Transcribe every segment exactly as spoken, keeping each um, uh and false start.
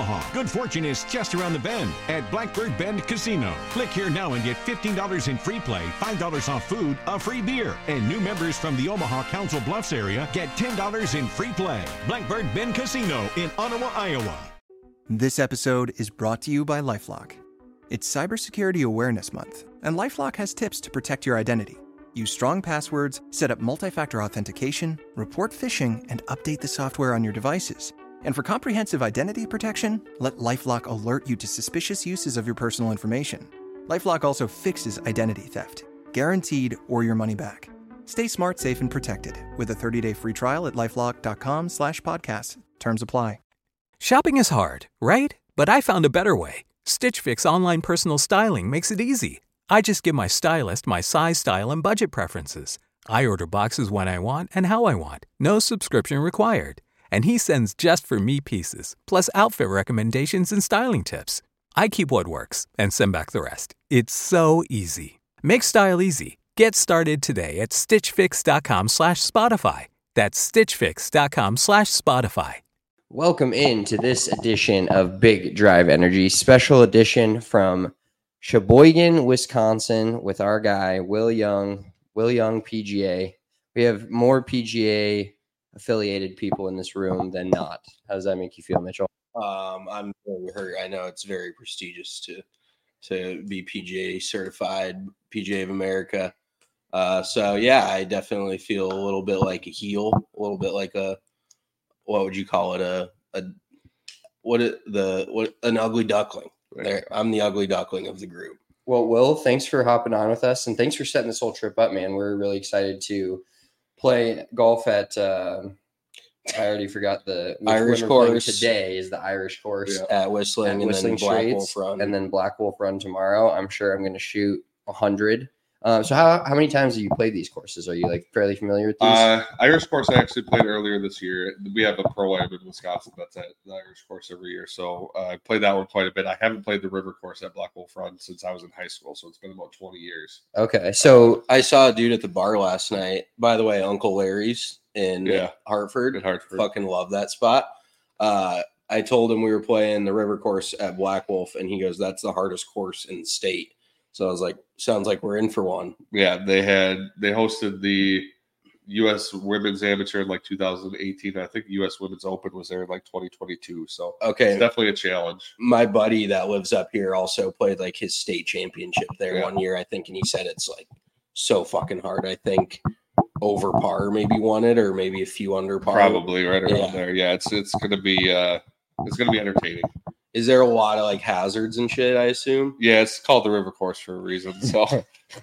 Omaha. Good fortune is just around the bend at Blackbird Bend Casino. Click here now and get fifteen dollars in free play, five dollars off food, a free beer. And new members from the Omaha Council Bluffs area get ten dollars in free play. Blackbird Bend Casino in Ottawa, Iowa. This episode is brought to you by LifeLock. It's Cybersecurity Awareness Month, and LifeLock has tips to protect your identity. Use strong passwords, set up multi-factor authentication, report phishing, and update the software on your devices. And for comprehensive identity protection, let LifeLock alert you to suspicious uses of your personal information. LifeLock also fixes identity theft, guaranteed or your money back. Stay smart, safe, and protected with a thirty-day free trial at LifeLock.com slash podcast. Terms apply. Shopping is hard, right? But I found a better way. Stitch Fix online personal styling makes it easy. I just give my stylist my size, style, and budget preferences. I order boxes when I want and how I want. No subscription required. And he sends just for me pieces, plus outfit recommendations and styling tips. I keep what works and send back the rest. It's so easy. Make style easy. Get started today at stitchfix.com slash Spotify. That's stitchfix.com slash Spotify. Welcome into this edition of Big Drive Energy, special edition from Sheboygan, Wisconsin, with our guy, Will Young, Will Young P G A. We have more P G A affiliated people in this room than not. How does that make you feel, Mitchell? Um, I'm very hurt. I know it's very prestigious to to be P G A certified, P G A of America. Uh, so yeah, I definitely feel a little bit like a heel, a little bit like a, what would you call it? A, a what it, the what an ugly duckling. There, I'm the ugly duckling of the group. Well, Will, thanks for hopping on with us, and thanks for setting this whole trip up, man. We're really excited to play golf at. Uh, I already forgot the Irish course today. Is the Irish course yeah. at Whistling, at and Whistling then Black Straits, Wolf Run, and then Black Wolf Run tomorrow. I'm sure I'm going to shoot a hundred. Um, so how how many times have you played these courses? Are you like fairly familiar with these? Uh, Irish course I actually played earlier this year. We have a pro-am in Wisconsin that's at the Irish course every year. So uh, I played that one quite a bit. I haven't played the river course at Black Wolf Run since I was in high school. So it's been about twenty years. Okay. So I saw a dude at the bar last night. By the way, Uncle Larry's in yeah, Hartford. In Hartford. Fucking love that spot. Uh, I told him we were playing the river course at Black Wolf, and he goes, "That's the hardest course in the state." So I was like, sounds like we're in for one. Yeah, they had they hosted the U S Women's Amateur in like two thousand eighteen. I think the U S Women's Open was there in like twenty twenty-two. So okay, it's definitely a challenge. My buddy that lives up here also played like his state championship there yeah. one year, I think, and he said it's like so fucking hard. I think over par maybe won it, or maybe a few under par. Probably right around yeah. there. Yeah, it's it's gonna be uh, it's gonna be entertaining. Is there a lot of like hazards and shit, I assume? Yeah, it's called the river course for a reason. So a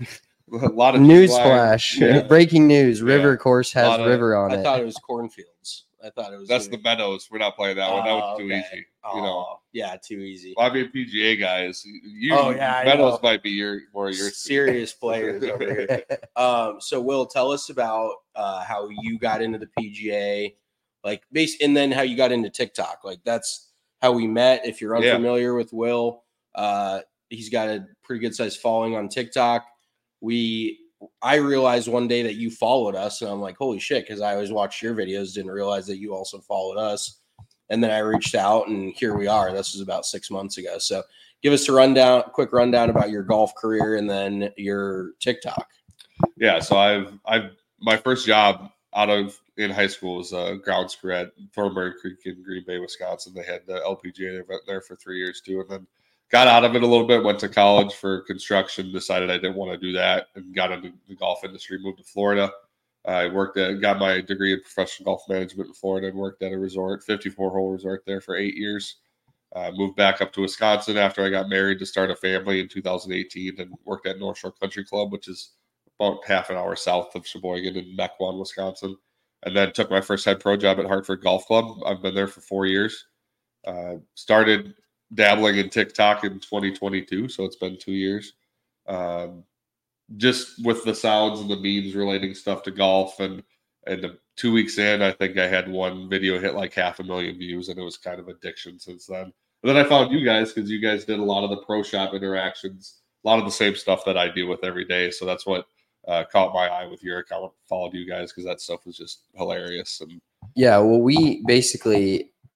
lot of newsflash. Yeah. Breaking news. River yeah. course has river of, on I it. I thought it was cornfields. I thought it was That's the Meadows. We're not playing that one. That oh, was too okay. easy. Oh, you know. Yeah, too easy. Well, I mean P G A guys. You oh, yeah, Meadows might be your more your serious players over here. Um, so Will, tell us about uh, how you got into the P G A, like base and then how you got into TikTok. Like that's how we met. If you're unfamiliar yeah. with Will, uh, he's got a pretty good sized following on TikTok. We, I realized one day that you followed us, and I'm like, holy shit, because I always watched your videos, didn't realize that you also followed us. And then I reached out, and here we are. This was about six months ago. So give us a rundown, quick rundown about your golf career, and then your TikTok. Yeah. So I've, I've, my first job out of in high school was a grounds crew at Thornbury Creek in Green Bay, Wisconsin. They had the L P G A event there for three years too, and then got out of it a little bit. Went to college for construction. Decided I didn't want to do that, and got into the golf industry. Moved to Florida. I worked at got my degree in professional golf management in Florida, and worked at a resort, fifty-four hole resort there for eight years. Uh, moved back up to Wisconsin after I got married to start a family in two thousand eighteen, and worked at North Shore Country Club, which is about half an hour south of Sheboygan in Mequon, Wisconsin. And then took my first head pro job at Hartford Golf Club. I've been there for four years. Uh, started dabbling in TikTok in twenty twenty-two, so it's been two years. Um, just with the sounds and the memes relating stuff to golf. And, and the two weeks in, I think I had one video hit like half a million views, and it was kind of addiction since then. And then I found you guys because you guys did a lot of the pro shop interactions, a lot of the same stuff that I deal with every day. So that's what Uh, caught my eye with your account, followed you guys because that stuff was just hilarious. And yeah, well, we basically,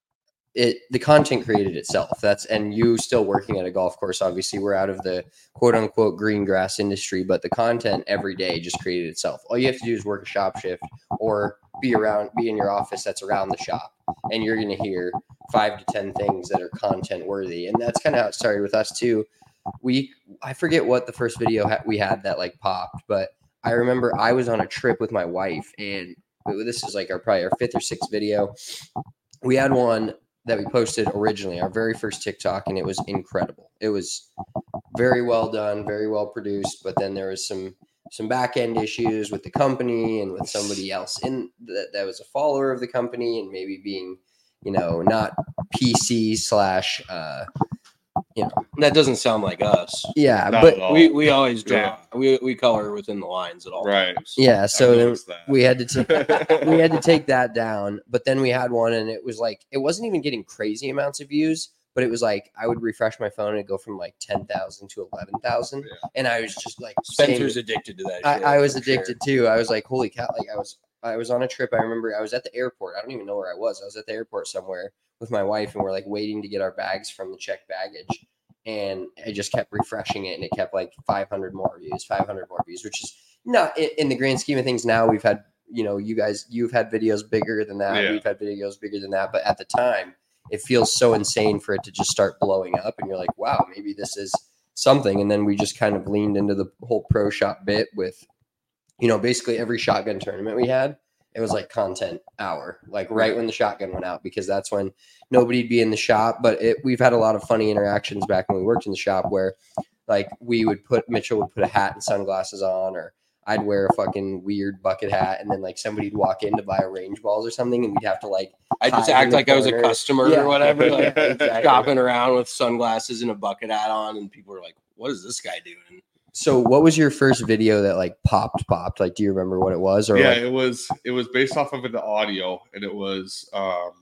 it the content created itself. That's and you still working at a golf course. Obviously, we're out of the quote unquote green grass industry, but the content every day just created itself. All you have to do is work a shop shift or be around, be in your office that's around the shop, and you're going to hear five to ten things that are content worthy. And that's kind of how it started with us too. We I forget what the first video ha- we had that like popped, but I remember I was on a trip with my wife, and this is like our probably our fifth or sixth video. We had one that we posted originally, our very first TikTok, and it was incredible. It was very well done, very well produced, but then there was some some back end issues with the company and with somebody else in that, that was a follower of the company and maybe being, you know, not P C slash uh you know, that doesn't sound like us. Yeah, Not but we we always draw. Yeah. We we color within the lines at all Right. times. yeah, so then noticed that. we had to take we had to take that down. But then we had one, and it was like it wasn't even getting crazy amounts of views, but it was like I would refresh my phone and it'd go from like ten thousand to eleven thousand, Yeah. and I was just like, Spencer's same- addicted to that. I, shit, I was for addicted sure. too. I was like, holy cow! Like I was I was on a trip. I remember I was at the airport. I don't even know where I was. I was at the airport somewhere with my wife, and we're like waiting to get our bags from the checked baggage. And I just kept refreshing it, and it kept like five hundred more views, five hundred more views, which is not in, in the grand scheme of things. Now we've had, you know, you guys, you've had videos bigger than that. Yeah. We've had videos bigger than that. But at the time, it feels so insane for it to just start blowing up. And you're like, wow, maybe this is something. And then we just kind of leaned into the whole pro shop bit with, you know, basically every shotgun tournament we had. It was like content hour, like right when the shotgun went out, because that's when nobody'd be in the shop. But it, we've had a lot of funny interactions back when we worked in the shop where like we would put, Mitchell would put a hat and sunglasses on, or I'd wear a fucking weird bucket hat. And then like somebody'd walk in to buy a range balls or something, and we'd have to like, I just hide in act the like I was a corner. customer Yeah. or whatever, like Yeah, exactly. shopping around with sunglasses and a bucket hat on, and people were like, "What is this guy doing?" So what was your first video that like popped, popped? Like, do you remember what it was? Or yeah, like, it was it was based off of the audio, and it was um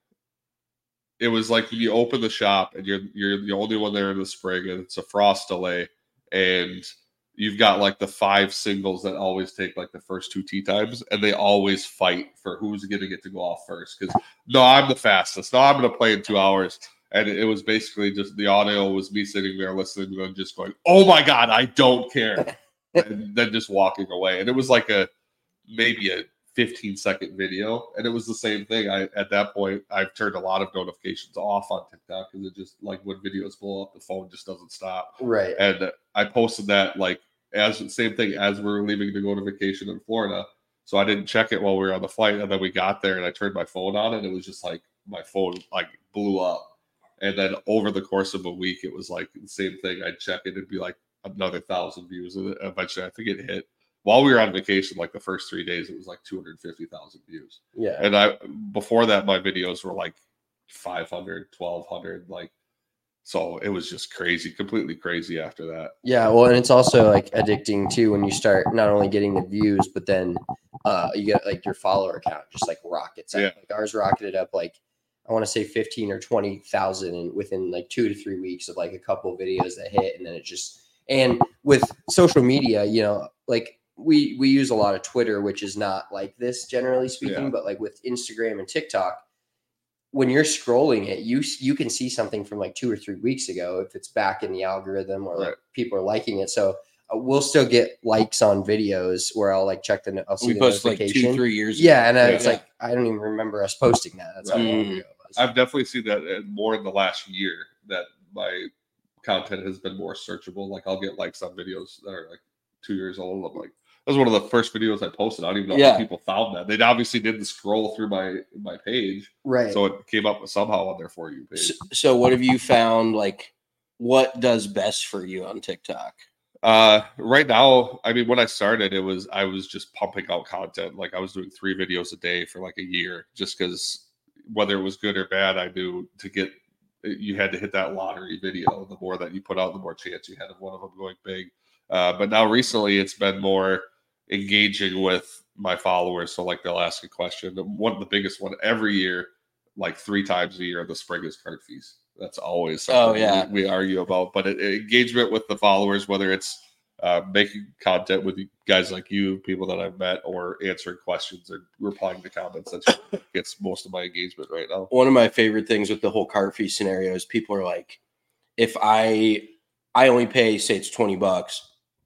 it was like when you open the shop and you're you're the only one there in the spring, and it's a frost delay, and you've got like the five singles that always take like the first two tee times, and they always fight for who's going to get to go off first. Because no, I'm the fastest. No, I'm going to play in two hours. And it was basically just the audio was me sitting there listening and just going, "Oh my god, I don't care," and then just walking away. And it was like a maybe a fifteen second video, and it was the same thing. I at that point I've turned a lot of notifications off on TikTok because it just like when videos blow up, the phone just doesn't stop. right. And I posted that like as same thing as we were leaving to go to vacation in Florida. So I didn't check it while we were on the flight, and then we got there and I turned my phone on, and it was just like my phone like blew up. And then over the course of a week, it was like the same thing. I'd check it, it'd be like another thousand views. And eventually, I think it hit while we were on vacation. Like the first three days, it was like two hundred fifty thousand views. Yeah. And I before that, my videos were like five hundred, twelve hundred. Like, so it was just crazy, completely crazy after that. Yeah, well, and it's also like addicting too when you start not only getting the views, but then uh, you get like your follower count just like rockets up. Yeah. Like ours rocketed up like I want to say fifteen or twenty thousand, and within like two to three weeks of like a couple of videos that hit, and then it just and with social media, you know, like we we use a lot of Twitter, which is not like this generally speaking, Yeah. but like with Instagram and TikTok, when you're scrolling it, you you can see something from like two or three weeks ago if it's back in the algorithm or like Right. people are liking it. So uh, we'll still get likes on videos where I'll like check the I'll see We the posted like notification. two, three years. yeah, and I Yeah. was like, I don't even remember us posting that. That's how long Mm. ago it was. I've definitely seen that uh, more in the last year that my content has been more searchable. Like I'll get likes on videos that are like two years old. I'm like, that was one of the first videos I posted. I don't even know Yeah. how people found that. They obviously didn't scroll through my my page, Right. so it came up somehow on their For You page. So, so what have you found? Like, what does best for you on TikTok? Uh, right now, I mean, when I started, it was I was just pumping out content. Like I was doing three videos a day for like a year, just because whether it was good or bad, I knew to get you had to hit that lottery video. The more that you put out, the more chance you had of one of them going big. Uh, but now recently, it's been more engaging with my followers. So like they'll ask a question. One of the biggest one every year, like three times a year, the spring is card fees. That's always something Oh, yeah. we, we argue about. But it, it- engagement with the followers, whether it's uh, making content with guys like you, people that I've met, or answering questions and replying to comments. That's what gets most of my engagement right now. One of my favorite things with the whole cart fee scenario is people are like, if I I only pay, say it's twenty bucks.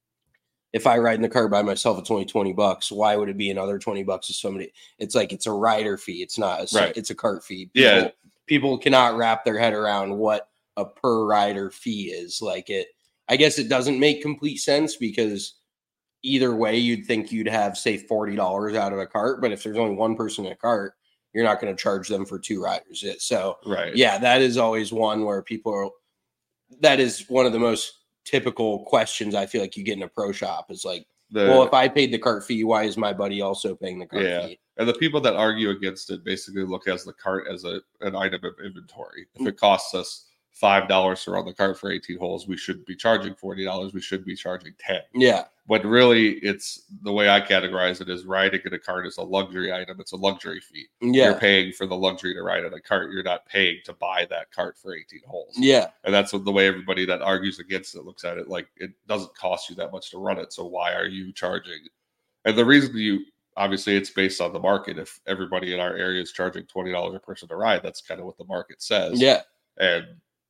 If I ride in the car by myself, it's only twenty bucks. Why would it be another twenty bucks to somebody? It's like, it's a rider fee. It's not, a, right. It's a cart fee. People, yeah. People cannot wrap their head around what a per rider fee is. Like it, I guess it doesn't make complete sense because either way you'd think you'd have, say, forty dollars out of a cart. But if there's only one person in a cart, you're not going to charge them for two riders. So right. yeah, that is always one where people are, that is one of the most typical questions I feel like you get in a pro shop is like, the, well, if I paid the cart fee, why is my buddy also paying the cart yeah. fee? And the people that argue against it basically look at the cart as a an item of inventory. If it costs us five dollars to run the cart for eighteen holes, we should be charging forty dollars. We should be charging ten. Yeah. But really, it's the way I categorize it is riding in a cart is a luxury item. It's a luxury fee. Yeah. You're paying for the luxury to ride in a cart. You're not paying to buy that cart for eighteen holes. Yeah. And that's what the way everybody that argues against it looks at it. Like, it doesn't cost you that much to run it. So why are you charging? And the reason you, obviously, it's based on the market. If everybody in our area is charging twenty dollars a person to ride, that's kind of what the market says. Yeah. And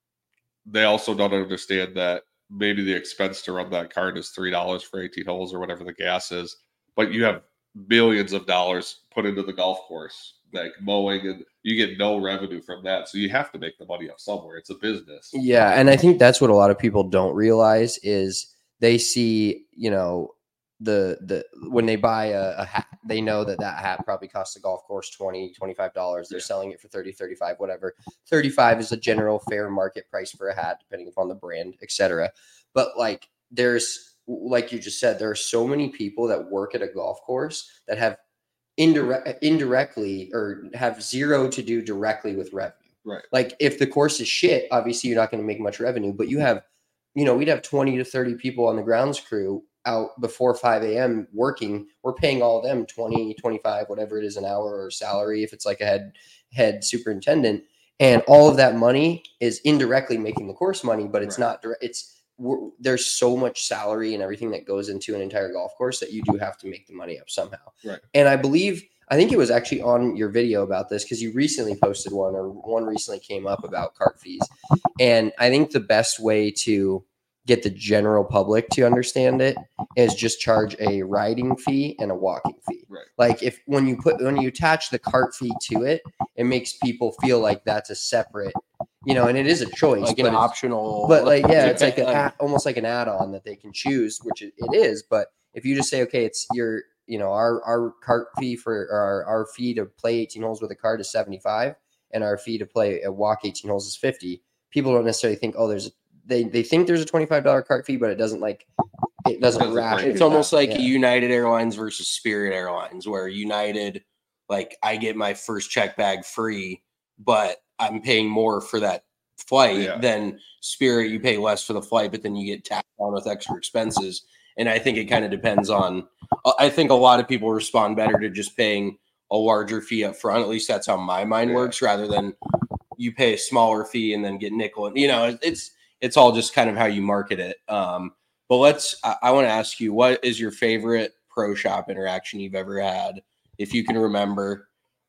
they also don't understand that maybe the expense to run that cart is three dollars for eighteen holes or whatever the gas is, but you have billions of dollars put into the golf course, like mowing, and you get no revenue from that. So you have to make the money up somewhere. It's a business. Yeah. And I think that's what a lot of people don't realize is they see, you know, the, the, when they buy a, a hat, they know that that hat probably costs the golf course twenty, twenty-five dollars. They're yeah. selling it for thirty, thirty-five, whatever. thirty-five is a general fair market price for a hat, depending upon the brand, et cetera. But like, there's, like you just said, there are so many people that work at a golf course that have indirect, indirectly or have zero to do directly with revenue. Right. Like if the course is shit, obviously you're not going to make much revenue, but you have, you know, we'd have twenty to thirty people on the grounds crew out before five a.m. working. We're paying all of them twenty, twenty-five, whatever it is an hour or salary. If it's like a head, head superintendent, and all of that money is indirectly making the course money, but it's right. not direct. It's we're, there's so much salary and everything that goes into an entire golf course that you do have to make the money up somehow. Right. And I believe, I think it was actually on your video about this because you recently posted one or one recently came up about cart fees. And I think the best way to get the general public to understand it is just charge a riding fee and a walking fee. Right. Like if, when you put, when you attach the cart fee to it, it makes people feel like that's a separate, you know, and it is a choice, like but an optional, but like, yeah, it's like an, almost like an add-on that they can choose, which it, it is. But if you just say, okay, it's your, you know, our, our cart fee for our, our fee to play eighteen holes with a cart is seventy-five and our fee to play a walk eighteen holes is fifty. People don't necessarily think, oh, there's a, They they think there's a twenty-five dollars cart fee, but it doesn't like it doesn't, doesn't wrap. It's almost like yeah. United Airlines versus Spirit Airlines, where United, like I get my first check bag free, but I'm paying more for that flight yeah. than Spirit. You pay less for the flight, but then you get tacked on with extra expenses. And I think it kind of depends on. I think a lot of people respond better to just paying a larger fee up front. At least that's how my mind yeah. works, rather than you pay a smaller fee and then get nickel. And you know, it's. It's all just kind of how you market it. Um, but let's, I, I want to ask you, what is your favorite pro shop interaction you've ever had, if you can remember?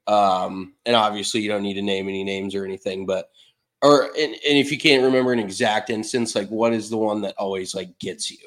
Um, and obviously you don't need to name any names or anything, but, or, and, and if you can't remember an exact instance, like what is the one that always like gets you?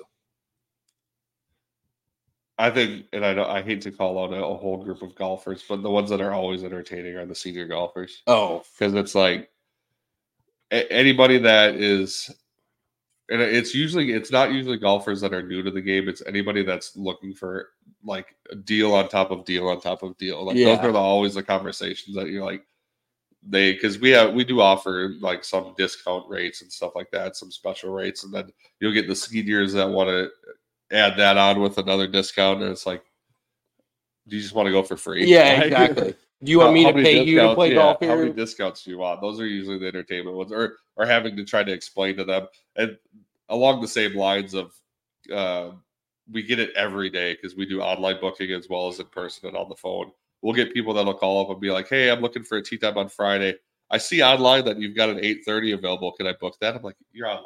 I think, and I don't, I hate to call out a, a whole group of golfers, but the ones that are always entertaining are the senior golfers. Oh, because it's like, anybody that is, and it's usually, it's not usually golfers that are new to the game. It's anybody that's looking for like a deal on top of deal on top of deal. Like yeah. those are the, always the conversations that you're like, they, because we have, we do offer like some discount rates and stuff like that, some special rates. And then you'll get the seniors that want to add that on with another discount. And it's like, do you just want to go for free? Yeah, like, exactly. Do you want me to pay you to play yeah, golf here? How many discounts do you want? Those are usually the entertainment ones, or or having to try to explain to them. And along the same lines of, uh, we get it every day because we do online booking as well as in person and on the phone. We'll get people that'll call up and be like, "Hey, I'm looking for a tee time on Friday. I see online that you've got an eight thirty available. Can I book that?" I'm like, "You're online already.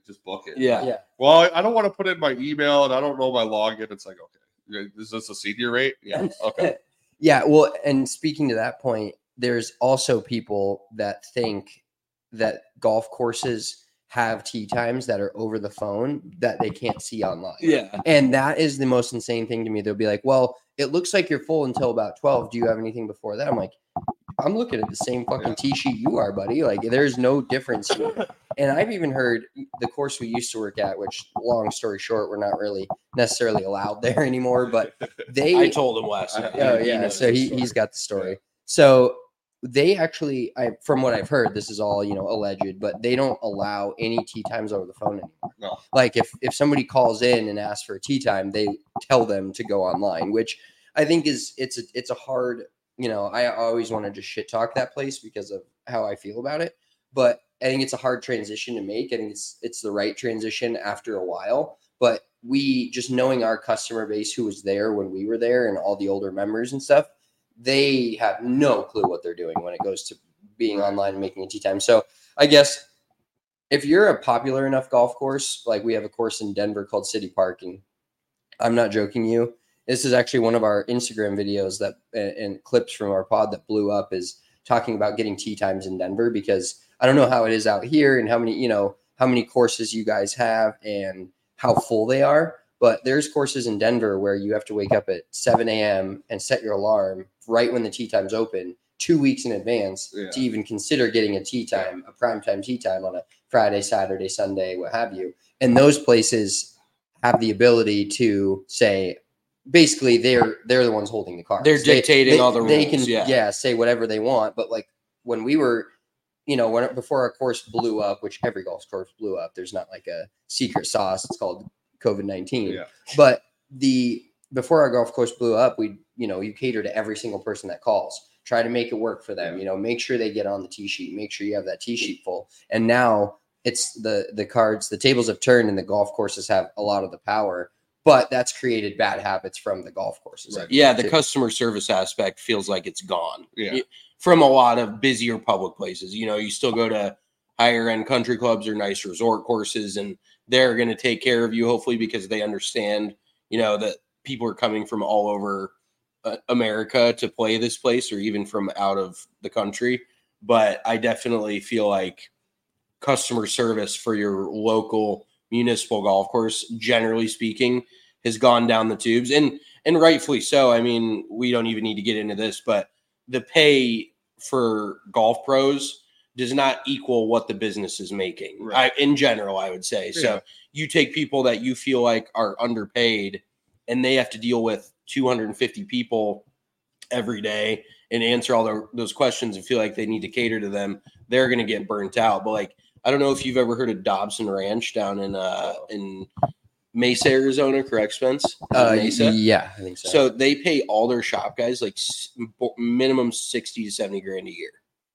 just book it. Yeah. Yeah. Well, I don't want to put in my email and I don't know my login. It's like, okay, is this a senior rate? Yeah. Okay. Yeah. Well, and speaking to that point, there's also people that think that golf courses have tee times that are over the phone that they can't see online. Yeah. And that is the most insane thing to me. They'll be like, well, it looks like you're full until about twelve. Do you have anything before that? I'm like, I'm looking at the same fucking Yeah. tee sheet you are, buddy. Like, there's no difference here. And I've even heard the course we used to work at, which, long story short, we're not really necessarily allowed there anymore, but they I told him last night. Oh He yeah, knows so the he story. he's got the story. So they actually, I from what I've heard, this is all, you know, alleged, but they don't allow any tee times over the phone anymore. No. Like if if somebody calls in and asks for a tee time, they tell them to go online, which I think is it's a it's a hard, you know, I always want to just shit talk that place because of how I feel about it, but I think it's a hard transition to make. I think it's it's the right transition after a while, but we just knowing our customer base who was there when we were there and all the older members and stuff, they have no clue what they're doing when it goes to being online and making a tee time. So I guess if you're a popular enough golf course, like we have a course in Denver called City Park, and I'm not joking you, this is actually one of our Instagram videos that and, and clips from our pod that blew up is talking about getting tee times in Denver, because I don't know how it is out here and how many, you know, how many courses you guys have and how full they are. But there's courses in Denver where you have to wake up at seven a.m. and set your alarm right when the tee time's open, two weeks in advance Yeah. to even consider getting a tee time, a prime time tee time on a Friday, Saturday, Sunday, what have you. And those places have the ability to say, basically, they're they're the ones holding the cards. They're They- dictating they, all the They rules, can, yeah. yeah, say whatever they want. But like when we were, you know, when before our course blew up, which every golf course blew up, there's not like a secret sauce. It's called COVID nineteen. Yeah. But the before our golf course blew up, we, you know, you cater to every single person that calls. Try to make it work for them. You know, make sure they get on the tee sheet. Make sure you have that tee sheet full. And now it's the the cards, the tables have turned, and the golf courses have a lot of the power. But that's created bad habits from the golf courses. Right. Yeah, the too. customer service aspect feels like it's gone. Yeah. Y- From a lot of busier public places. You know, you still go to higher end country clubs or nice resort courses, and they're going to take care of you, hopefully, because they understand, you know, that people are coming from all over uh, America to play this place, or even from out of the country. But I definitely feel like customer service for your local municipal golf course, generally speaking, has gone down the tubes, and and rightfully so. I mean, we don't even need to get into this, but the pay for golf pros does not equal what the business is making. Right. I, in general, I would say. Yeah. So you take people that you feel like are underpaid, and they have to deal with two hundred fifty people every day and answer all the, those questions and feel like they need to cater to them. They're going to get burnt out. But like, I don't know if you've ever heard of Dobson Ranch down in uh in Mesa, Arizona, correct, Spence? Uh, Mesa. yeah, I think so. So they pay all their shop guys like s- minimum sixty to seventy grand a year.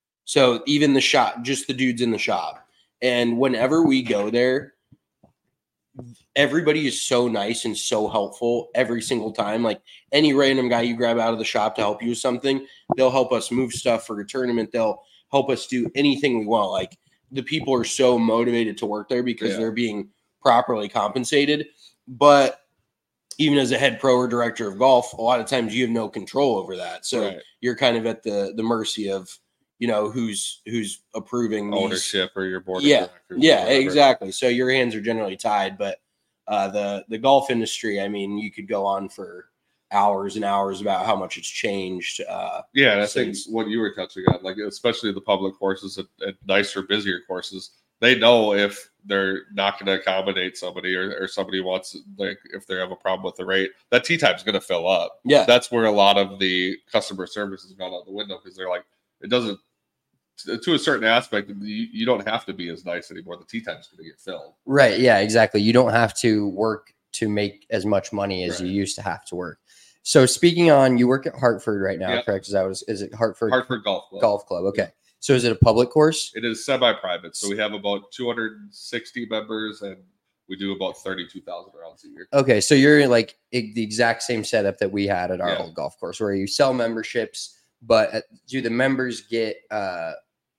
So even the shop, just the dudes in the shop. And whenever we go there, everybody is so nice and so helpful every single time. Like any random guy you grab out of the shop to help you with something, they'll help us move stuff for a tournament. They'll help us do anything we want. Like the people are so motivated to work there because Yeah. they're being properly compensated. But even as a head pro or director of golf, a lot of times you have no control over that. So Right. you're kind of at the the mercy of, you know, who's who's approving these. Ownership or your board Yeah, of directors. or Yeah, whatever. exactly. So your hands are generally tied. But uh, the the golf industry, I mean, you could go on for hours and hours about how much it's changed. Uh, Yeah, and I think since- what you were touching on, like especially the public courses at, at nicer, busier courses, they know if they're not going to accommodate somebody or, or somebody wants, like, if they have a problem with the rate, that tee time is going to fill up. yeah, That's where a lot of the customer service has gone out the window because they're like, it doesn't, to a certain aspect, you, you don't have to be as nice anymore. The tee time is going to get filled. Right. Yeah, exactly. You don't have to work to make as much money as Right. you used to have to work. So speaking on, you work at Hartford right now, Yep. correct? Is that what, is it Hartford, Hartford Golf Club. Golf Club? Okay. So is it a public course? It is semi-private, so we have about two hundred sixty members, and we do about thirty-two thousand rounds a year. Okay. So you're in like e- the exact same setup that we had at our Yeah. old golf course where you sell memberships, but uh, do the members get uh,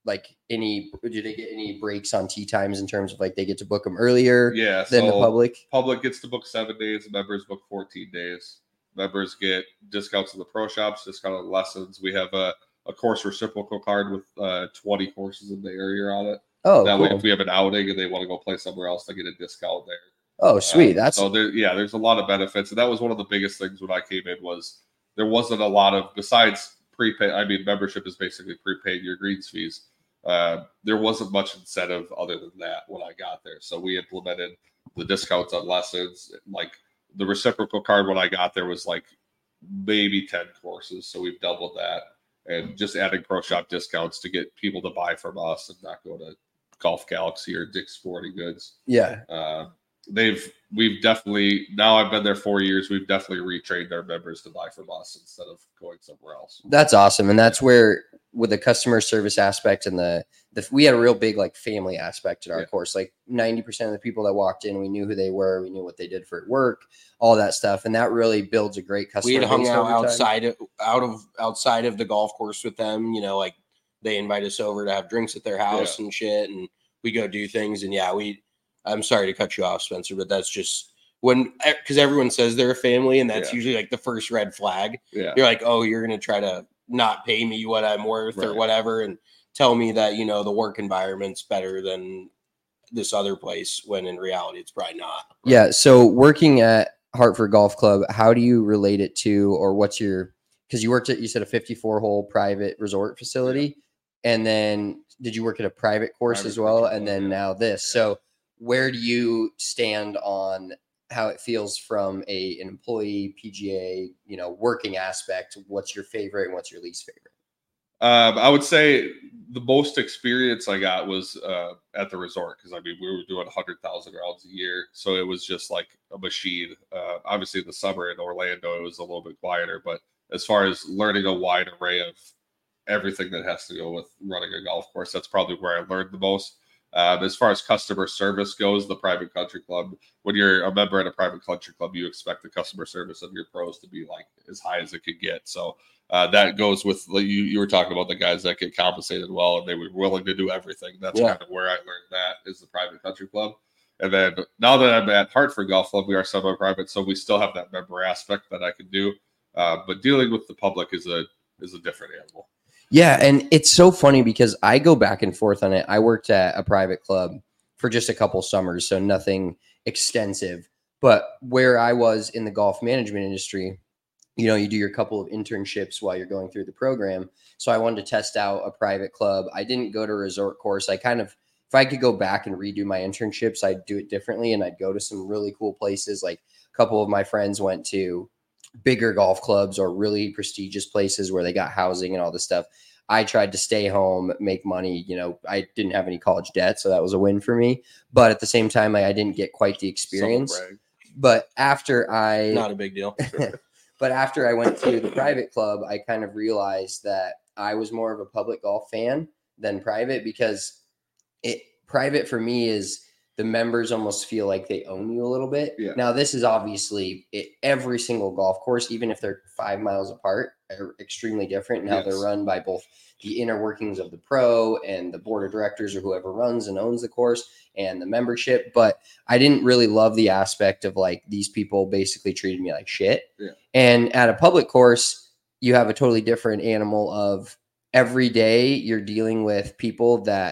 like any, do they get any breaks on tee times in terms of like they get to book them earlier yeah, than so the public? Public gets to book seven days. Members book fourteen days. Members get discounts in the pro shops, discount on lessons. We have a, a course reciprocal card with uh, twenty courses in the area on it. Oh, that cool. way, if we have an outing and they want to go play somewhere else, they get a discount there. Oh, sweet. Um, That's so there. Yeah, there's a lot of benefits, and that was one of the biggest things when I came in was there wasn't a lot of besides prepaid. I mean, membership is basically prepaid your greens fees. Uh, there wasn't much incentive other than that when I got there. So we implemented the discounts on lessons. Like the reciprocal card when I got there was like maybe ten courses. So we've doubled that, and just adding pro shop discounts to get people to buy from us and not go to Golf Galaxy or Dick's Sporting Goods. Yeah. Uh, they've we've definitely now I've been there four years. We've definitely retrained our members to buy from us instead of going somewhere else. That's awesome. And that's where with the customer service aspect and the, the we had a real big like family aspect in our Yeah. course. Like ninety percent of the people that walked in, we knew who they were, we knew what they did for work, all that stuff. And that really builds a great customer. We had hung base out over time. outside of out of outside of the golf course with them, you know, like they invite us over to have drinks at their house Yeah. and shit, and we go do things. And yeah, we I'm sorry to cut you off, Spencer, but that's just when because everyone says they're a family, and that's Yeah. usually like the first red flag. Yeah. You're like, oh, you're gonna try to not pay me what I'm worth or Right. whatever, and tell me that, you know, the work environment's better than this other place, when in reality it's probably not. Yeah. So working at Hartford Golf Club, how do you relate it to, or what's your, because you worked at, you said a fifty-four hole private resort facility. And then did you work at a private course Private as well? country And club, then yeah. now this. Yeah. So where do you stand on how it feels from a an employee P G A, you know, working aspect? What's your favorite and what's your least favorite? Um, I would say the most experience I got was uh, at the resort because I mean we were doing one hundred thousand rounds a year, so it was just like a machine. Uh, obviously, in the summer in Orlando it was a little bit quieter, but as far as learning a wide array of everything that has to go with running a golf course, that's probably where I learned the most. Um, as far as customer service goes, the private country club, when you're a member at a private country club, you expect the customer service of your pros to be like as high as it could get. So uh, that goes with you. You were talking about the guys that get compensated well and they were willing to do everything. That's Yeah. kind of where I learned that is the private country club. And then now that I'm at Hartford Golf Club, we are semi-private, so we still have that member aspect that I can do. Uh, but dealing with the public is a is a different animal. Yeah, and it's so funny because I go back and forth on it. I worked at a private club for just a couple summers, so nothing extensive. But where I was in the golf management industry, you know, you do your couple of internships while you're going through the program. So I wanted to test out a private club. I didn't go to a resort course. I kind of, if I could go back and redo my internships, I'd do it differently. And I'd go to some really cool places. Like a couple of my friends went to bigger golf clubs or really prestigious places where they got housing and all this stuff. I tried to stay home, make money. You know, I didn't have any college debt, so that was a win for me. But at the same time, like, I didn't get quite the experience. Brag. But after I, Not a big deal. but after I went to the private club, I kind of realized that I was more of a public golf fan than private, because it private for me is the members almost feel like they own you a little bit. Yeah. Now, this is obviously it, every single golf course, even if they're five miles apart, are extremely different in how Yes. they're run by both the inner workings of the pro and the board of directors or whoever runs and owns the course and the membership. But I didn't really love the aspect of like these people basically treated me like shit. Yeah. And at a public course, you have a totally different animal of every day you're dealing with people that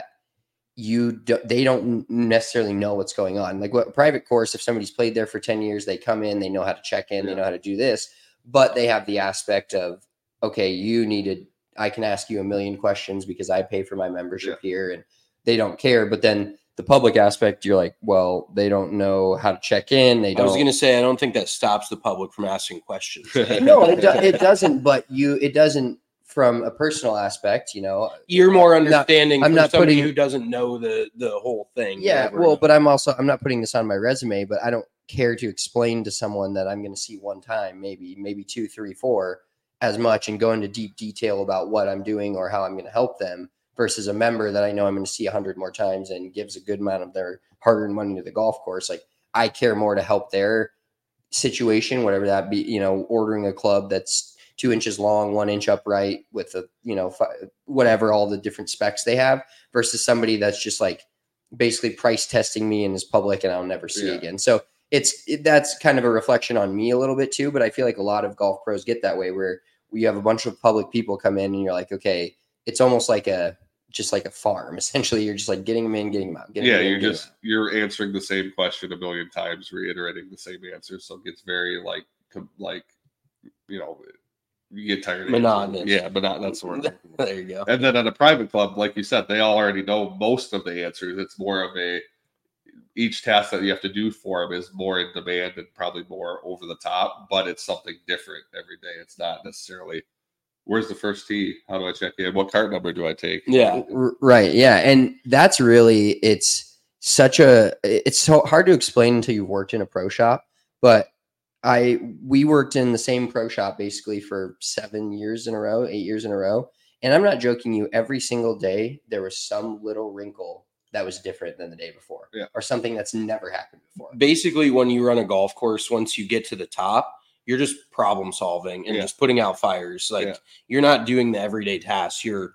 you do, they don't necessarily know what's going on. Like what private course, if somebody's played there for ten years, they come in, they know how to check in, Yeah. they know how to do this, but they have the aspect of, okay, you needed, I can ask you a million questions because I pay for my membership Yeah. here, and they don't care. But then the public aspect, you're like, well, they don't know how to check in. They I don't. was going to say, I don't think that stops the public from asking questions. no, it, do, it doesn't. But you, it doesn't from a personal aspect. You know, You're more I'm not- understanding I'm for not somebody putting- who doesn't know the the whole thing. Yeah, whatever. well, but I'm also I'm not putting this on my resume, but I don't care to explain to someone that I'm going to see one time, maybe maybe two, three, four, as much, and go into deep detail about what I'm doing or how I'm going to help them, versus a member that I know I'm going to see a hundred more times and gives a good amount of their hard-earned money to the golf course. Like I care more to help their situation, whatever that be, you know, ordering a club that's two inches long, one inch upright with a, you know, fi- whatever, all the different specs they have versus somebody that's just like basically price testing me and is public and I'll never see Yeah. again. So it's, it, that's kind of a reflection on me a little bit too, but I feel like a lot of golf pros get that way where we have a bunch of public people come in and you're like, okay, it's almost like a, just like a farm. Essentially, you're just like getting them in, getting them out. Getting Yeah, them in, you're getting just them out. you're answering the same question a million times, reiterating the same answer. So it gets very like com- like you know you get tired. Of Monotonous. answering. Yeah, monotonous. That's the word. There you go. And then at a private club, like you said, they all already know most of the answers. It's more of a each task that you have to do for them is more in demand and probably more over the top, but it's something different every day. It's not necessarily where's the first tee? How do I check in? What cart number do I take? Yeah. R- Right. Yeah. And that's really, it's such a, it's so hard to explain until you've worked in a pro shop. But I, we worked in the same pro shop basically for seven years in a row, eight years in a row. And I'm not joking you, every single day there was some little wrinkle that was different than the day before, Yeah. or something that's never happened before. Basically, when you run a golf course, once you get to the top, you're just problem solving and Yeah. just putting out fires. Like Yeah. you're not doing the everyday tasks. You're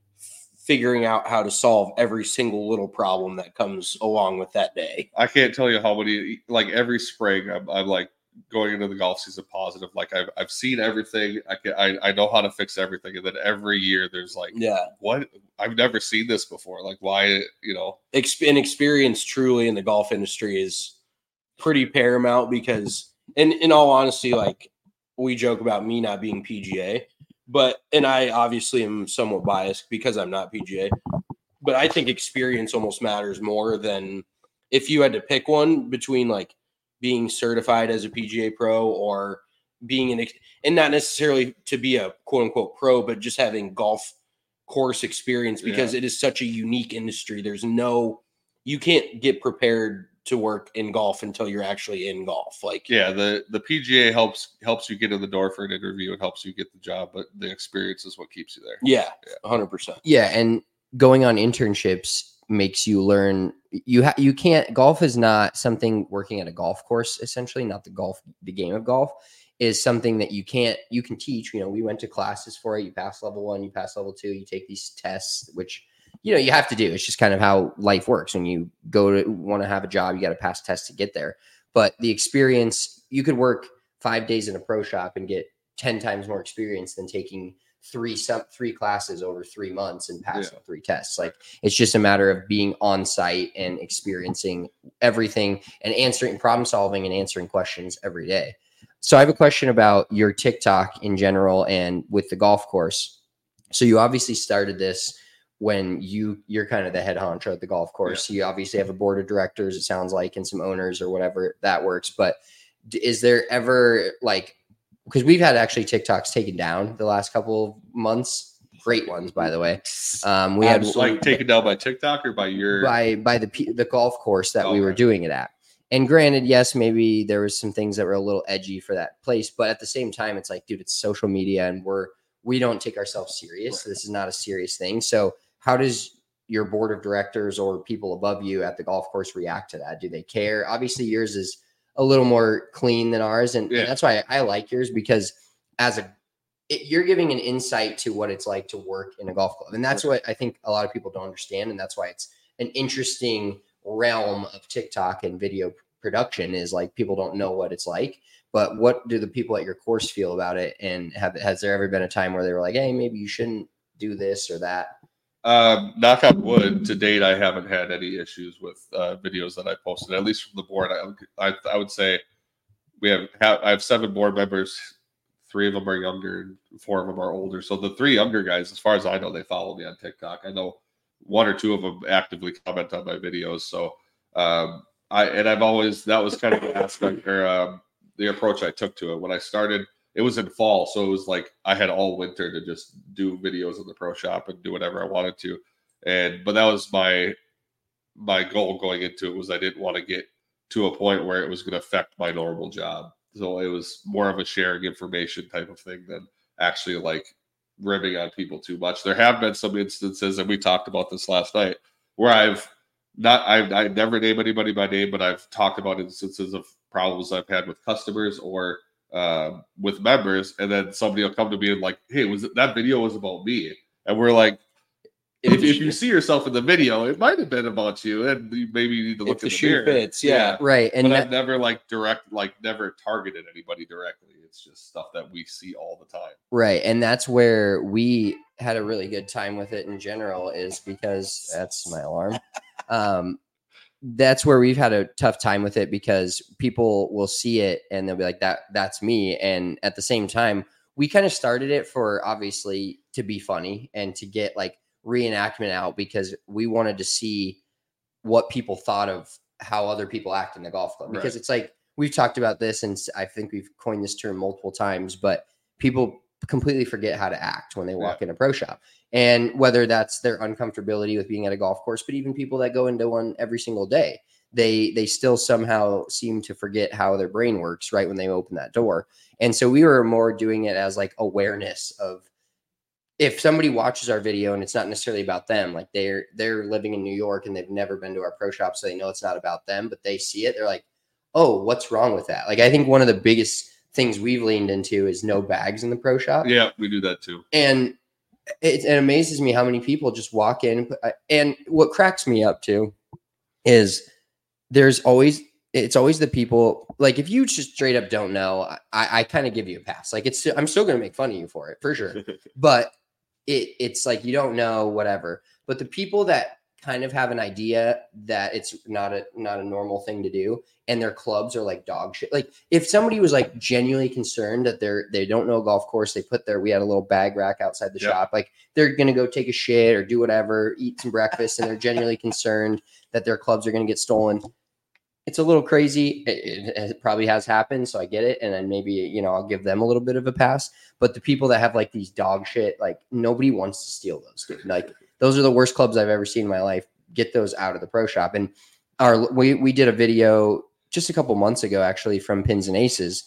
figuring out how to solve every single little problem that comes along with that day. I can't tell you how many, like every spring, I'm, I'm like going into the golf season positive. Like I've, I've seen everything. I can, I, I know how to fix everything. And then every year there's like, Yeah. what? I've never seen this before. Like why, you know, Exp- and experience truly in the golf industry is pretty paramount because, and in all honesty, like we joke about me not being P G A, but, and I obviously am somewhat biased because I'm not P G A, but I think experience almost matters more than if you had to pick one between like being certified as a P G A pro or being an, and not necessarily to be a quote unquote pro, but just having golf course experience because Yeah. it is such a unique industry. There's no, you can't get prepared to work in golf until you're actually in golf. Like, yeah, the, the P G A helps, helps you get in the door for an interview and helps you get the job, but the experience is what keeps you there. yeah, one hundred percent. Yeah, and going on internships makes you learn. You ha- you can't. Golf is not something working at a golf course. Essentially, not the golf. The game of golf is something that you can't. You can teach. You know, we went to classes for it. You pass level one. You pass level two. You take these tests, which you know you have to do. It's just kind of how life works. When you go to want to have a job, you got to pass tests to get there. But the experience, you could work five days in a pro shop and get ten times more experience than taking three some three classes over three months and passing Yeah. three tests. Like it's just a matter of being on site and experiencing everything and answering problem solving and answering questions every day. So I have a question about your TikTok in general and with the golf course. So you obviously started this when you you're kind of the head honcho at the golf course. You obviously have a board of directors, it sounds like, and some owners or whatever that works. But d- is there ever like, because we've had actually TikToks taken down the last couple of months, great ones, by the way. Um, we had Like taken down by TikTok or by your, by by the P- the golf course that we were Okay. doing it at. And granted, yes, maybe there was some things that were a little edgy for that place, but at the same time, it's like, dude, it's social media, and we're we don't take ourselves serious. This is not a serious thing. So, how does your board of directors or people above you at the golf course react to that? Do they care? Obviously, yours is a little more clean than ours, and, Yeah. and that's why I, I like yours because as a it, you're giving an insight to what it's like to work in a golf club, and that's what I think a lot of people don't understand, and that's why it's an interesting realm of TikTok and video production. Is like people don't know what it's like. But what do the people at your course feel about it? And have has there ever been a time where they were like, "Hey, maybe you shouldn't do this or that"? Um, knock on wood, to date, I haven't had any issues with uh, videos that I posted, at least from the board. I, I, I would say we have, have I have seven board members. Three of them are younger, and four of them are older. So the three younger guys, as far as I know, they follow me on TikTok. I know one or two of them actively comment on my videos. So um, I and I've always that was kind of the aspect or um, the approach I took to it when I started. It was in fall, so it was like I had all winter to just do videos in the pro shop and do whatever I wanted to. And but that was my my goal going into it was I didn't want to get to a point where it was going to affect my normal job. So it was more of a sharing information type of thing than actually like ribbing on people too much. There have been some instances, and we talked about this last night, where I've not I've I never name anybody by name, but I've talked about instances of problems I've had with customers or uh, with members, and then somebody will come to me and like, hey, was it, that video was about me? And we're like, if, if you see yourself in the video, it might have been about you, and you maybe you need to look if in the the shoe mirror. fits, yeah. yeah. Right. And but that, I've never like direct, like never targeted anybody directly. It's just stuff that we see all the time. right. And that's where we had a really good time with it in general, is because that's my alarm. Um, that's where we've had a tough time with it, because people will see it and they'll be like, that that's me. And at the same time, we kind of started it for obviously to be funny and to get like reenactment out, because we wanted to see what people thought of how other people act in the golf club. Because Right. it's like, we've talked about this, and I think we've coined this term multiple times, but people completely forget how to act when they walk Yeah. in a pro shop. And whether that's their uncomfortability with being at a golf course, but even people that go into one every single day, they they still somehow seem to forget how their brain works right when they open that door. And so we were more doing it as like awareness of, if somebody watches our video and it's not necessarily about them, like they're they're living in New York and they've never been to our pro shop, so they know it's not about them, but they see it, they're like, oh, what's wrong with that? Like, I think one of the biggest things we've leaned into is no bags in the pro shop. Yeah, we do that too. And it, it amazes me how many people just walk in. And, put, and what cracks me up too is there's always, it's always the people, like if you just straight up don't know, I, I kind of give you a pass. Like it's, I'm still going to make fun of you for it for sure. But it, it's like, you don't know, whatever. But the people that kind of have an idea that it's not a not a normal thing to do, and their clubs are like dog shit. Like if somebody was like genuinely concerned that they're they don't know a golf course, they put their we had a little bag rack outside the Yep. shop, like they're gonna go take a shit or do whatever, eat some breakfast, and they're genuinely concerned that their clubs are gonna get stolen. It's a little crazy. It, it, it probably has happened, so I get it. And then maybe, you know, I'll give them a little bit of a pass. But the people that have like these dog shit, like nobody wants to steal those, dude. Like those are the worst clubs I've ever seen in my life. Get those out of the pro shop. And our we we did a video just a couple months ago, actually, from Pins and Aces,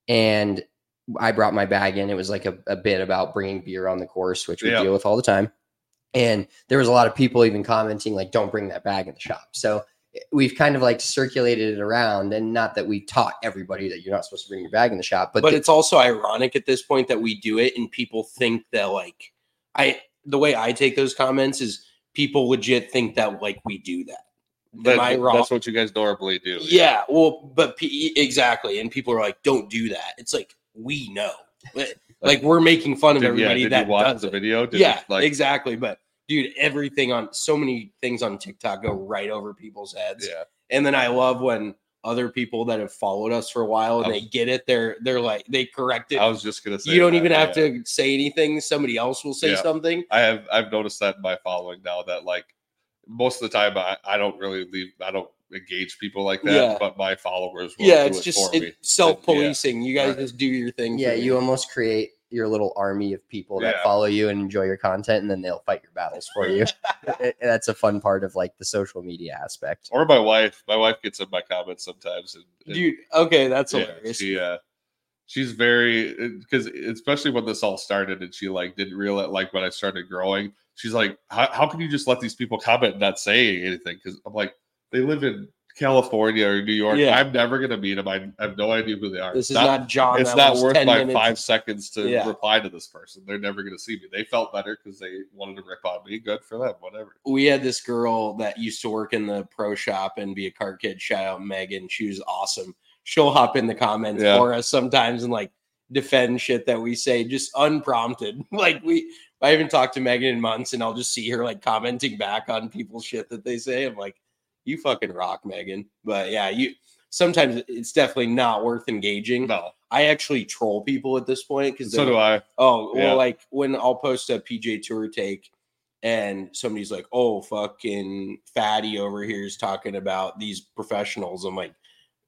and I brought my bag in. It was like a, a bit about bringing beer on the course, which we Yeah. deal with all the time. And there was a lot of people even commenting like, "Don't bring that bag in the shop." So we've kind of like circulated it around, and not that we taught everybody that you're not supposed to bring your bag in the shop, but, But the- it's also ironic at this point that we do it and people think that like I the way I take those comments is people legit think that like we do that. That- Am I wrong? That's what you guys normally do. Yeah, well, but P- exactly, and people are like, "Don't do that." It's like we know, like, like we're making fun of Did, everybody yeah, did that you watch does the it. video? Did Yeah, it, like exactly. But dude, everything on so many things on TikTok go right over people's heads. yeah. And then I love when other people that have followed us for a while and I they was- get it, they're they're like they correct it. I was just gonna say You don't that, even have yeah. to say anything. Somebody else will say Yeah. something. I have I've noticed that in my following now that like most of the time I, I don't really leave I don't engage people like that, Yeah. but my followers will Yeah, do it's it just for me. it's self-policing. You guys Right. just do your thing. yeah, for you me. almost create your little army of people that Yeah. follow you and enjoy your content, and then they'll fight your battles for you. It- that's a fun part of like the social media aspect. Or my wife. My wife gets in my comments sometimes. And, and dude. Okay, that's yeah, hilarious. she uh she's very because especially when this all started and she like didn't realize like when I started growing, she's like, how, how can you just let these people comment and not saying anything? Because I'm like, they live in California or New York. Yeah. I'm never gonna meet them. I, I have no idea who they are. This is Not- not John. it's that not was worth ten my minutes. five seconds to Yeah. reply to this person. They're never going to see me. They felt better because they wanted to rip on me. Good for them. Whatever. We had this girl that used to work in the pro shop and be a cart kid. Shout out Megan. She was awesome. She'll hop in the comments Yeah. for us sometimes and like defend shit that we say just unprompted. Like we, I haven't talked to Megan in months, and I'll just see her like commenting back on people's shit that they say. I'm like, you fucking rock, Megan. But yeah, you sometimes it's definitely not worth engaging. No. I actually troll people at this point because So do I. Oh, well, Yeah. like when I'll post a P J Tour take and somebody's like, oh, fucking fatty over here is talking about these professionals. I'm like,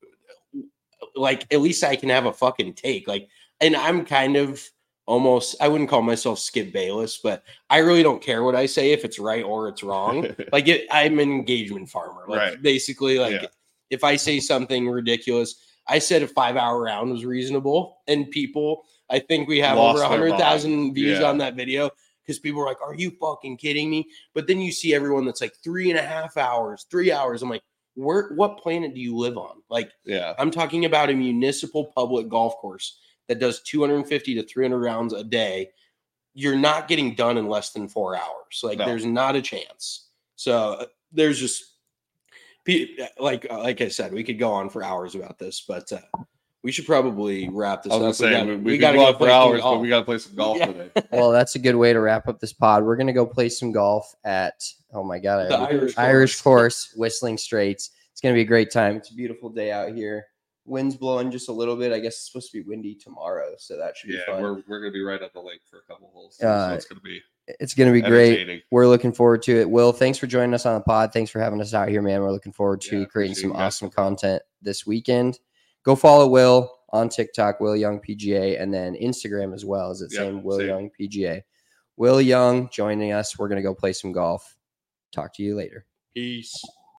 like, at least I can have a fucking take. Like, and I'm kind of almost, I wouldn't call myself Skip Bayless, but I really don't care what I say if it's right or it's wrong. Like, it, I'm an engagement farmer. Like, Right. basically, like, Yeah. if I say something ridiculous, I said a five hour round was reasonable, and people, I think we have Lost over their one hundred thousand mind. views Yeah. on that video because people are like, are you fucking kidding me? But then you see everyone that's like three and a half hours, three hours. I'm like, where what planet do you live on? Like, yeah, I'm talking about a municipal public golf course that does two hundred fifty to three hundred rounds a day. You're not getting done in less than four hours. Like, No. there's not a chance. So there's just like like I said, we could go on for hours about this, but uh, we should probably wrap this I was up. gonna say we we, gotta, we, we gotta could go go on for play some hours, but golf. we got to play some golf Yeah. today. Well, that's a good way to wrap up this pod. We're gonna go play some golf at oh my god, The I- Irish Irish course. course, Whistling Straits. It's gonna be a great time. It's a beautiful day out here. Wind's blowing just a little bit. I guess it's supposed to be windy tomorrow, so that should be Yeah, fun. we're we're gonna be right at the lake for a couple holes, so Uh, it's gonna be It's gonna be great. entertaining. We're looking forward to it. Will, thanks for joining us on the pod. Thanks for having us out here, man. We're looking forward to Yeah, creating appreciate some you guys. awesome content this weekend. Go follow Will on TikTok, Will Young P G A, and then Instagram as well. Is it Yep, same Will same. Young P G A? Will Young joining us. We're gonna go play some golf. Talk to you later. Peace.